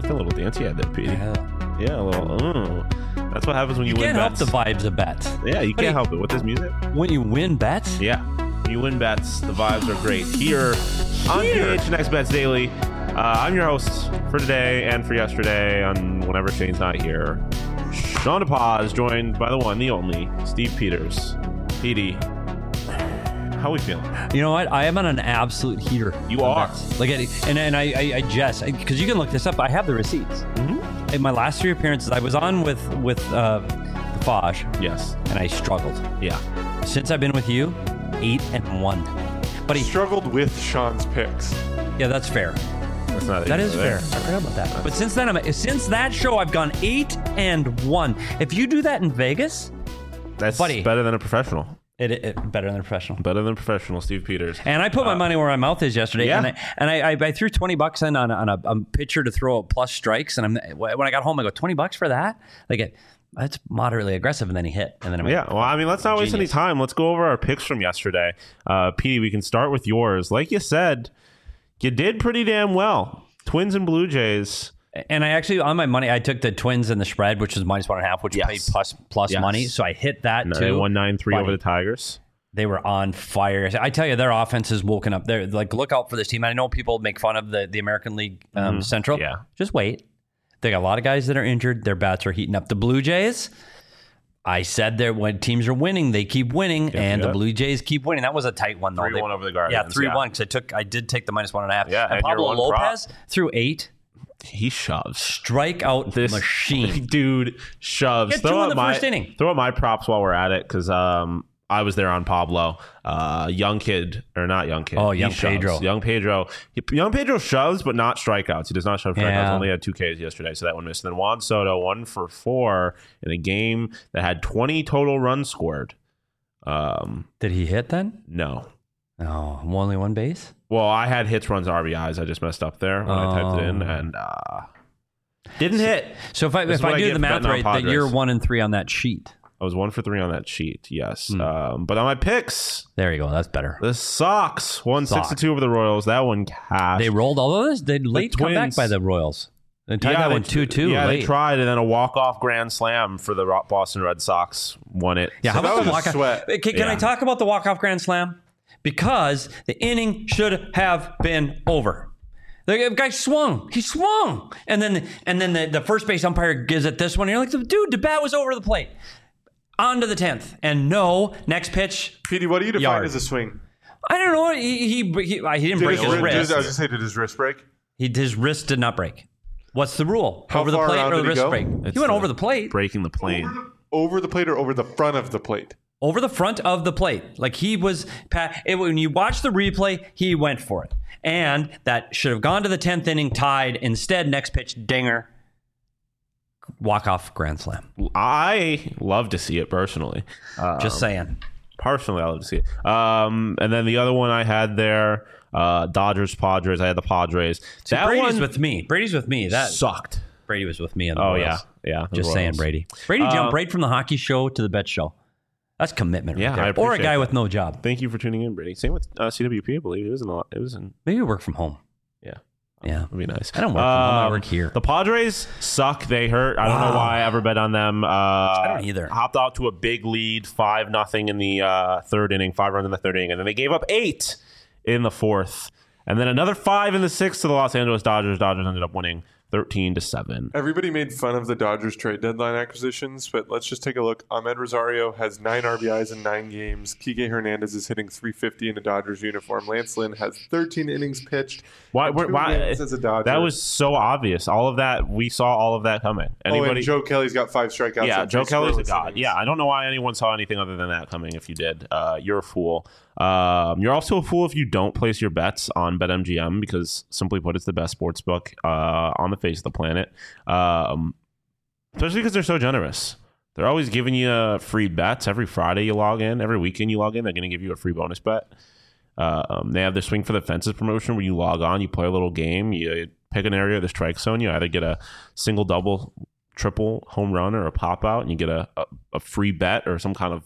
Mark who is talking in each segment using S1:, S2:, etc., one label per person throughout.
S1: a little dance you had there, Pete. Yeah, a little. That's what happens when you win
S2: can't
S1: bets.
S2: help the vibes of bets.
S1: Yeah, you can't help it with this music.
S2: When you win bets?
S1: Yeah, when you win bets, the vibes are great. Here on PHNX Bets Daily, I'm your host for today and for yesterday on whenever Shane's not here. Sean DePaz, joined by the one, the only, Steve Peters. Petey, how we feeling?
S2: You know what? I am on an absolute heater.
S1: You are.
S2: Like, and I just, because you can look this up. I have the receipts. In my last 3 appearances, I was on with the Fosh.
S1: Yes.
S2: And I struggled.
S1: Yeah.
S2: Since I've been with you, 8-1. But he
S3: struggled with Sean's picks.
S2: Yeah, that's fair.
S1: That
S2: is fair. I forgot about that. But since then, since that show, I've gone 8-1. If you do that in Vegas,
S1: that's
S2: buddy,
S1: better than a professional.
S2: It better than a professional.
S1: Better than professional, Steve Peters.
S2: And I put my money where my mouth is yesterday.
S1: Yeah.
S2: And I threw $20 in on a pitcher to throw plus strikes. And when I got home, I go, $20 for that? Like, that's moderately aggressive. And then he hit. And then
S1: well, I mean, let's not waste any time. Let's go over our picks from yesterday. Petey, we can start with yours. Like you said, you did pretty damn well. Twins and Blue Jays.
S2: And I actually, on my money, I took the Twins and the spread, which was -1.5, which paid plus money. So I hit that too.
S1: 193 over the Tigers.
S2: They were on fire. I tell you, their offense is woken up. They're like, look out for this team. I know people make fun of the American League Central.
S1: Yeah.
S2: Just wait. They got a lot of guys that are injured. Their bats are heating up. The Blue Jays, I said that when teams are winning, they keep winning, and the Blue Jays keep winning. That was a tight one, though.
S1: 3-1 over the Guardians.
S2: Yeah, 3-1, because I did take the -1.5.
S1: Yeah,
S2: and Pablo Lopez threw 8.
S1: He shoves.
S2: Strikeout this machine.
S1: Dude shoves.
S2: Get 2 in the first inning.
S1: Throw out my props while we're at it, because I was there on Pablo. Young kid, or not young kid.
S2: Oh, young Pedro.
S1: Young Pedro. Young Pedro shoves, but not strikeouts. He does not shove strikeouts. Only had 2 Ks yesterday, so that one missed. And then Juan Soto, 1 for 4 in a game that had 20 total runs scored.
S2: Did he hit then?
S1: No.
S2: No, only 1 base?
S1: Well, I had hits, runs, RBIs. I just messed up there when I typed it in, and didn't hit.
S2: So if I do the math right, that you're 1-3 on that sheet.
S1: I was 1 for 3 on that sheet, yes. But on my picks,
S2: there you go. That's better.
S1: The Sox won 6-2 over the Royals. That one cashed.
S2: They rolled all of this. They late come back by the Royals. They tied that one 2-2.
S1: Yeah, they tried, and then a walk-off grand slam for the Boston Red Sox won it.
S2: Yeah,
S1: so
S2: how about the walk-off? Can I talk about the walk-off grand slam? Because the inning should have been over. The guy swung. He swung. And then the first base umpire gives it this one. And you're like, dude, the bat was over the plate. On to the 10th. And no, next pitch.
S3: Petey, what do you define as a swing?
S2: I don't know. He didn't break his wrist.
S3: I was going to say, did his wrist break?
S2: His wrist did not break. What's the rule?
S3: How
S2: over the
S3: far
S2: plate
S3: around
S2: or the
S3: did he
S2: wrist
S3: go?
S2: break? He went over the plate.
S1: Breaking the plate.
S3: Over the plate or over the front of the plate?
S2: Over the front of the plate. Like he was, when you watch the replay, he went for it. And that should have gone to the 10th inning tied. Instead, next pitch, dinger, walk-off grand slam.
S1: I love to see it personally.
S2: Just saying.
S1: Personally, I love to see it. And then the other one I had there, Dodgers, Padres. I had the Padres.
S2: That Brady's with me. Brady's with me. That
S1: sucked.
S2: Brady was with me in the Royals.
S1: Yeah.
S2: Just saying, Brady. Brady jumped right from the hockey show to the bet show. That's commitment, right there. Or a guy with no job.
S1: Thank you for tuning in, Brady. Same with CWP, I believe. It was in.
S2: Maybe you work from home.
S1: Yeah.
S2: Yeah.
S1: It'd be nice.
S2: I don't work from home. I work here.
S1: The Padres suck. They hurt. I don't know why I ever bet on them.
S2: I don't either.
S1: Hopped out to a big lead, 5-0 in the third inning, 5 runs in the third inning, and then they gave up 8 in the fourth. And then another 5 in the sixth to the Los Angeles Dodgers. Dodgers ended up winning 13-7.
S3: Everybody made fun of the Dodgers trade deadline acquisitions, but let's just take a look. Ahmed Rosario has 9 RBIs in 9 games. Kike Hernandez is hitting .350 in a Dodgers uniform. Lance Lynn has 13 innings pitched.
S1: Why
S3: as a Dodger.
S1: That was so obvious. All of that, we saw all of that coming.
S3: And Joe Kelly's got 5 strikeouts.
S1: Yeah, Joe Kelly's a god. Yeah, I don't know why anyone saw anything other than that coming. If you did, you're a fool. You're also a fool if you don't place your bets on BetMGM, because simply put, it's the best sports book on the face of the planet. Especially because they're so generous. They're always giving you free bets. Every Friday you log in, every weekend you log in, they're going to give you a free bonus bet. They have their Swing for the Fences promotion where you log on, you play a little game, you pick an area of the strike zone, you either get a single, double, triple home run or a pop out, and you get a free bet or some kind of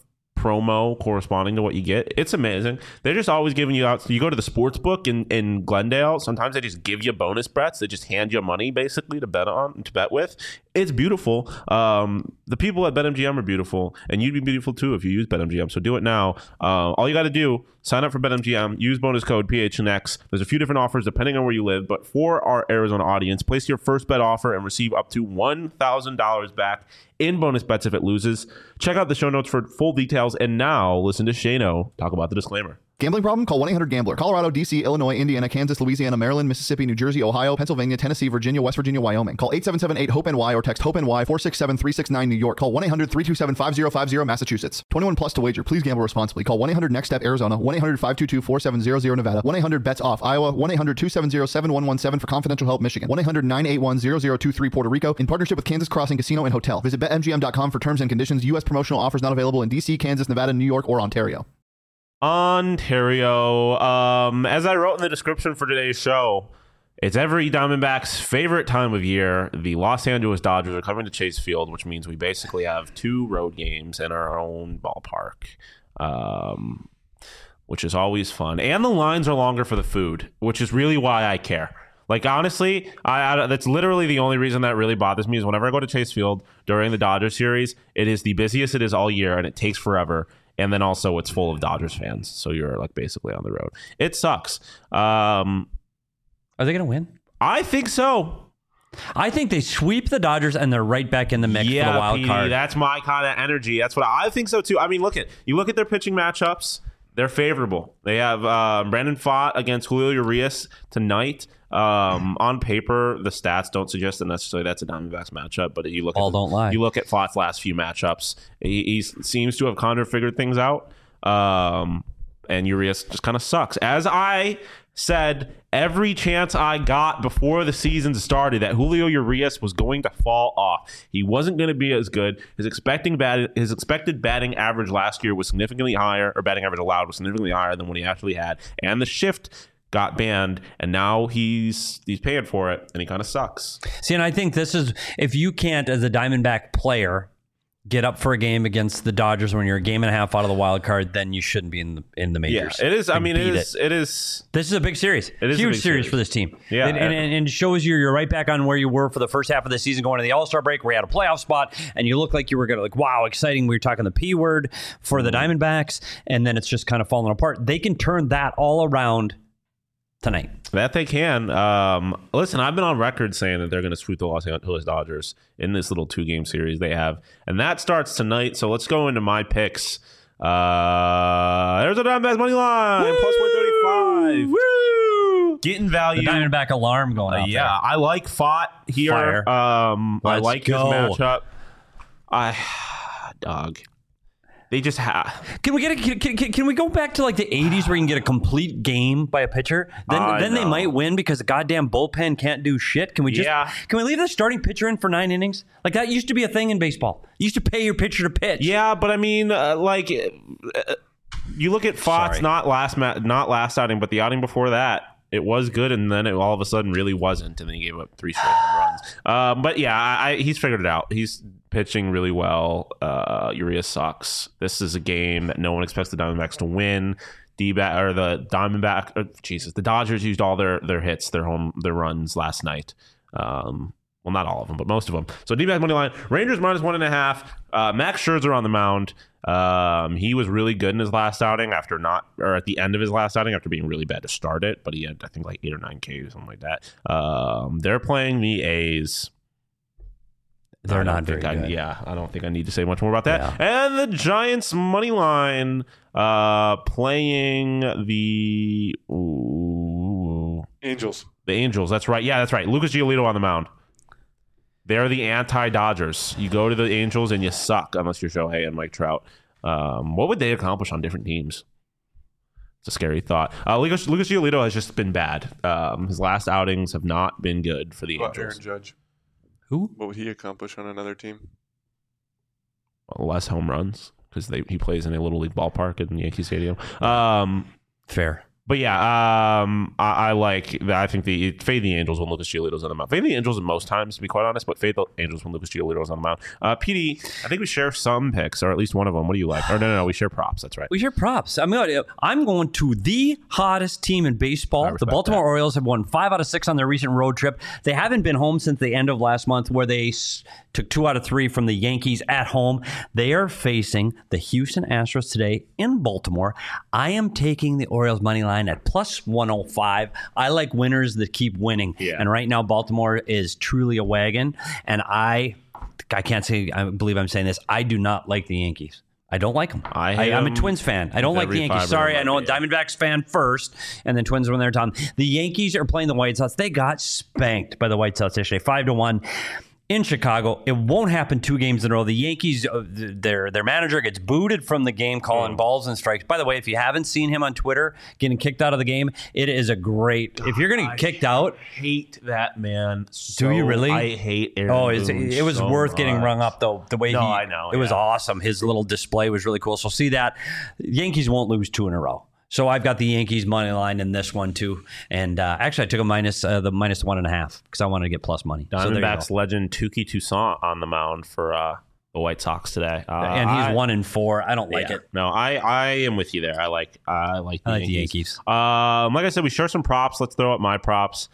S1: promo corresponding to what you get. It's amazing. They're just always giving you out. You go to the sports book in Glendale. Sometimes they just give you bonus bets. They just hand you money basically to bet with. It's beautiful. The people at BetMGM are beautiful, and you'd be beautiful too if you use BetMGM. So do it now. All you got to do, sign up for BetMGM, use bonus code PHNX. There's a few different offers depending on where you live, but for our Arizona audience, place your first bet offer and receive up to $1,000 back in bonus bets if it loses. Check out the show notes for full details, and now listen to Shano talk about the disclaimer.
S4: Gambling problem? Call 1-800-GAMBLER. Colorado, D.C., Illinois, Indiana, Kansas, Louisiana, Maryland, Mississippi, New Jersey, Ohio, Pennsylvania, Tennessee, Virginia, West Virginia, Wyoming. Call 877-8-HOPE-NY or text HOPE-NY 467-369 New York. Call 1-800-327-5050 Massachusetts. 21 plus to wager. Please gamble responsibly. Call 1-800-NEXT-STEP Arizona. 1-800-522-4700 Nevada. 1-800-BETS-OFF Iowa. 1-800-270-7117 for confidential help Michigan. 1-800-981-0023 Puerto Rico. In partnership with Kansas Crossing Casino and Hotel. Visit BetMGM.com for terms and conditions. U.S. promotional offers not available in D.C., Kansas, Nevada, New York, or Ontario.
S1: Ontario. As I wrote in the description for today's show, it's every Diamondback's favorite time of year. The Los Angeles Dodgers are coming to Chase Field, which means we basically have 2 road games in our own ballpark, which is always fun. And the lines are longer for the food, which is really why I care. Like, honestly, that's literally the only reason that really bothers me is whenever I go to Chase Field during the Dodgers series, it is the busiest it is all year, and it takes forever. And then also it's full of Dodgers fans. So you're like basically on the road. It sucks.
S2: Are they going to win?
S1: I think so.
S2: I think they sweep the Dodgers and they're right back in the mix for the wild card.
S1: That's my kind of energy. That's what I think so too. I mean, look at their pitching matchups. They're favorable. They have Brandon Pfaadt against Julio Urias tonight. On paper, the stats don't suggest that necessarily that's a Diamondbacks matchup, but you look you look at Pfaadt's last few matchups, he seems to have kind of figured things out. And Urias just kind of sucks. As I said, every chance I got before the season started that Julio Urias was going to fall off. He wasn't going to be as good. His expected batting average last year was significantly higher, or batting average allowed was significantly higher than what he actually had. And the shift got banned, and now he's paying for it, and he kind of sucks.
S2: See, and I think this is, if you can't, as a Diamondback player, get up for a game against the Dodgers when you're a game and a half out of the wild card, then you shouldn't be in the majors.
S1: Yeah, it is. I mean, it is.
S2: This is a big series. It is huge series for this team.
S1: Yeah,
S2: and it shows you're right back on where you were for the first half of the season, going to the All-Star break, where you had a playoff spot, and you look like you were going to, like, wow, exciting. We were talking the P word for the Diamondbacks, and then it's just kind of falling apart. They can turn that all around tonight.
S1: That they can. Listen, I've been on record saying that they're going to sweep the Los Angeles Dodgers in this little 2-game series they have, and that starts tonight. So let's go into my picks. There's a Diamondbacks money line, Woo! Plus 135. Woo! Getting value.
S2: The Diamondback alarm going off.
S1: Yeah, I like Pfaadt here.
S2: Fire.
S1: I like his matchup. Dog. They just have.
S2: Can we go back to like the 80s where you can get a complete game by a pitcher? Then they might win because the goddamn bullpen can't do shit. Can we leave the starting pitcher in for 9 innings? Like, that used to be a thing in baseball. You used to pay your pitcher to pitch.
S1: Yeah, but I mean, you look at Pfaadt's not last outing, but the outing before that, it was good, and then it all of a sudden really wasn't, and then he gave up 3 straight home runs. But yeah, he's figured it out. He's pitching really well. Urias sucks. This is a game that no one expects the Diamondbacks to win. The Dodgers used all their hits, their runs last night. Well, not all of them, but most of them. So D-back money line, Rangers minus 1.5. Max Scherzer on the mound. He was really good in his last outing at the end of his last outing after being really bad to start it, but he had, I think, like 8 or 9 Ks or something like that. They're playing the A's.
S2: They're not very good.
S1: Yeah, I don't think I need to say much more about that. Yeah. And the Giants money line playing the
S3: Angels.
S1: The Angels, that's right. Yeah, that's right. Lucas Giolito on the mound. They're the anti-Dodgers. You go to the Angels and you suck unless you're Shohei and Mike Trout. What would they accomplish on different teams? It's a scary thought. Lucas Giolito has just been bad. His last outings have not been good for the Angels.
S3: Aaron Judge.
S2: Who?
S3: What would he accomplish on another team?
S1: Less home runs because he plays in a little league ballpark in Yankee Stadium.
S2: Fair.
S1: But yeah, I like that. I think fade the Angels when Lucas Giolito's on the mound. Fade the Angels in most times, to be quite honest, but fade the Angels when Lucas Giolito's on the mound. PD, I think we share some picks, or at least one of them. What do you like? Or no, we share props. That's right.
S2: We share props. I'm going to the hottest team in baseball. The Baltimore Orioles have won 5 out of 6 on their recent road trip. They haven't been home since the end of last month, where they took 2 out of 3 from the Yankees at home. They are facing the Houston Astros today in Baltimore. I am taking the Orioles money line at plus 105. I like winners that keep winning.
S1: Yeah.
S2: And right now, Baltimore is truly a wagon. And I can't say, I believe I'm saying this, I do not like the Yankees. I don't like them. I'm a Twins fan. I don't like the Yankees. Sorry, I know Diamondbacks fan first, and then Twins when they're done. The Yankees are playing the White Sox. They got spanked by the White Sox yesterday, 5-1. In Chicago. It won't happen 2 games in a row. The Yankees, their manager gets booted from the game, calling balls and strikes. By the way, if you haven't seen him on Twitter getting kicked out of the game, it is a great. If you're going to get kicked out,
S1: hate that man.
S2: Do you really?
S1: I hate Aaron Boone
S2: it was
S1: so
S2: worth
S1: much.
S2: getting rung up though. The way
S1: I know.
S2: It was awesome. His little display was really cool. So see that Yankees won't lose 2 in a row. So I've got the Yankees money line in this one too, and actually I took the minus 1.5 because I wanted to get plus money.
S1: Diamondbacks legend Touki Toussaint on the mound for the White Sox today,
S2: and he's 1-4. I don't like it.
S1: No, I am with you there. I like the
S2: Yankees.
S1: Like I said, we share some props. Let's throw up my props.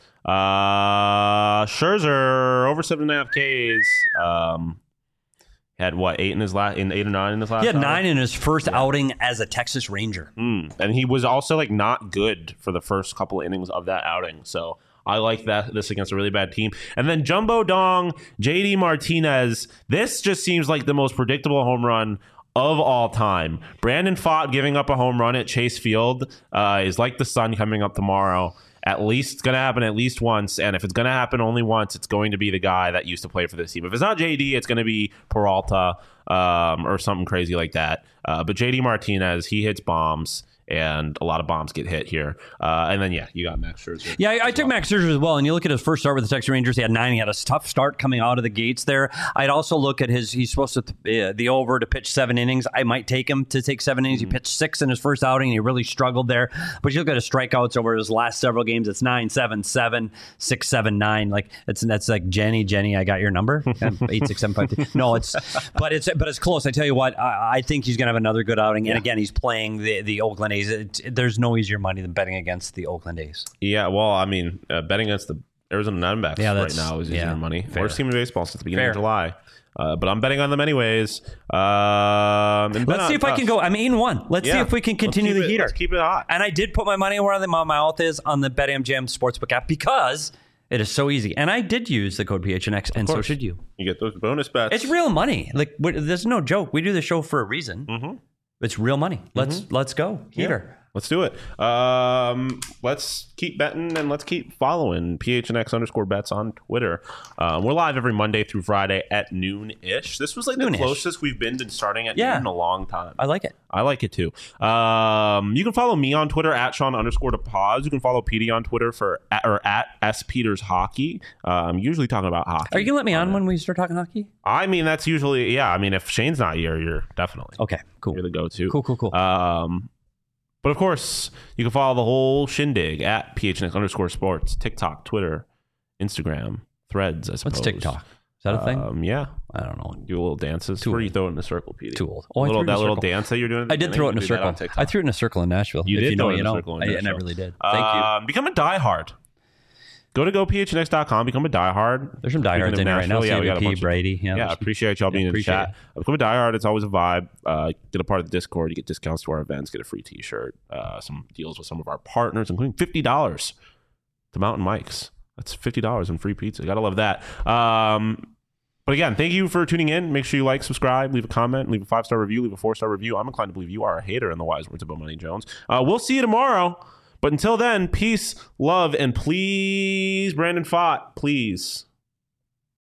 S1: Scherzer over 7.5 Ks. Had 8 in his last 8 or 9 in his last.
S2: He had 9 in his first outing as a Texas Ranger,
S1: and he was also not good for the first couple of innings of that outing. So I like this against a really bad team. And then Jumbo Dong, JD Martinez. This just seems like the most predictable home run of all time. Brandon Pfaadt giving up a home run at Chase Field is like the sun coming up tomorrow. At least it's going to happen at least once, and if it's going to happen only once, it's going to be the guy that used to play for this team. If it's not JD, it's going to be Peralta or something crazy like that. But JD Martinez, he hits bombs, and a lot of bombs get hit here. And then, you got Max Scherzer.
S2: Yeah, I took Max Scherzer as well. And you look at his first start with the Texas Rangers, he had 9. He had a tough start coming out of the gates there. I'd also look at he's supposed to, the over to pitch 7 innings. I might take him to take 7 innings. He pitched 6 in his first outing, and he really struggled there. But you look at his strikeouts over his last several games, it's 9-7-7, 6-7-9. That's like Jenny, I got your number. 8-6-7-5. No, but it's close. I tell you what, I think he's going to have another good outing. And again, he's playing the Oakland A's. There's no easier money than betting against the Oakland A's.
S1: Yeah, well, I mean, betting against the Arizona Diamondbacks right now is easier money.
S2: Fair.
S1: Worst team in baseball since the beginning of July. But I'm betting on them anyways. Let's
S2: see if I can go. I'm 8-1. Let's see if we can continue the heater.
S1: Let's keep it hot.
S2: And I did put my money where my mouth is on the BetMGM Sportsbook app because it is so easy. And I did use the code PHNX, and so should you.
S1: You get those bonus bets.
S2: It's real money. There's no joke. We do the show for a reason. Mm-hmm. It's real money. Let's go. Heater.
S1: Yeah. Let's do it. Let's keep betting and let's keep following PHNX_bets on Twitter. We're live every Monday through Friday at noon-ish. This was the closest we've been to starting at noon in a long time.
S2: I like it.
S1: I like it too. You can follow me on Twitter at Sean_DePaz. You can follow PD on Twitter at SPetersHockey. I'm usually talking about hockey.
S2: Are you going to let me on when we start talking hockey?
S1: I mean, that's usually, if Shane's not here, you're definitely.
S2: Okay, cool.
S1: You're the go-to.
S2: Cool.
S1: But of course, you can follow the whole shindig at PHNX_sports, TikTok, Twitter, Instagram, Threads, I suppose.
S2: What's TikTok? Is that a thing?
S1: Yeah.
S2: I don't know.
S1: Do little dances. Where you throw it in a circle, PD?
S2: Too old.
S1: That little dance that you're doing.
S2: I did throw it in a circle. I threw it in a circle in Nashville.
S1: You did throw it in a circle in Nashville.
S2: And I really did. Thank you.
S1: Become a diehard. Go to gophnx.com, become a diehard.
S2: There's some diehards in there right now.
S1: Yeah, we got a bunch
S2: Brady.
S1: Yeah, appreciate y'all being in the chat. Become a diehard. It's always a vibe. Get a part of the Discord. You get discounts to our events. Get a free t-shirt. Some deals with some of our partners, including $50 to Mountain Mike's. That's $50 in free pizza. Gotta love that. But again, thank you for tuning in. Make sure you like, subscribe, leave a comment, leave a 5-star review, leave a 4-star review. I'm inclined to believe you are a hater in the wise words of Money Jones. We'll see you tomorrow. But until then, peace, love, and please, Brandon Pfaadt, please.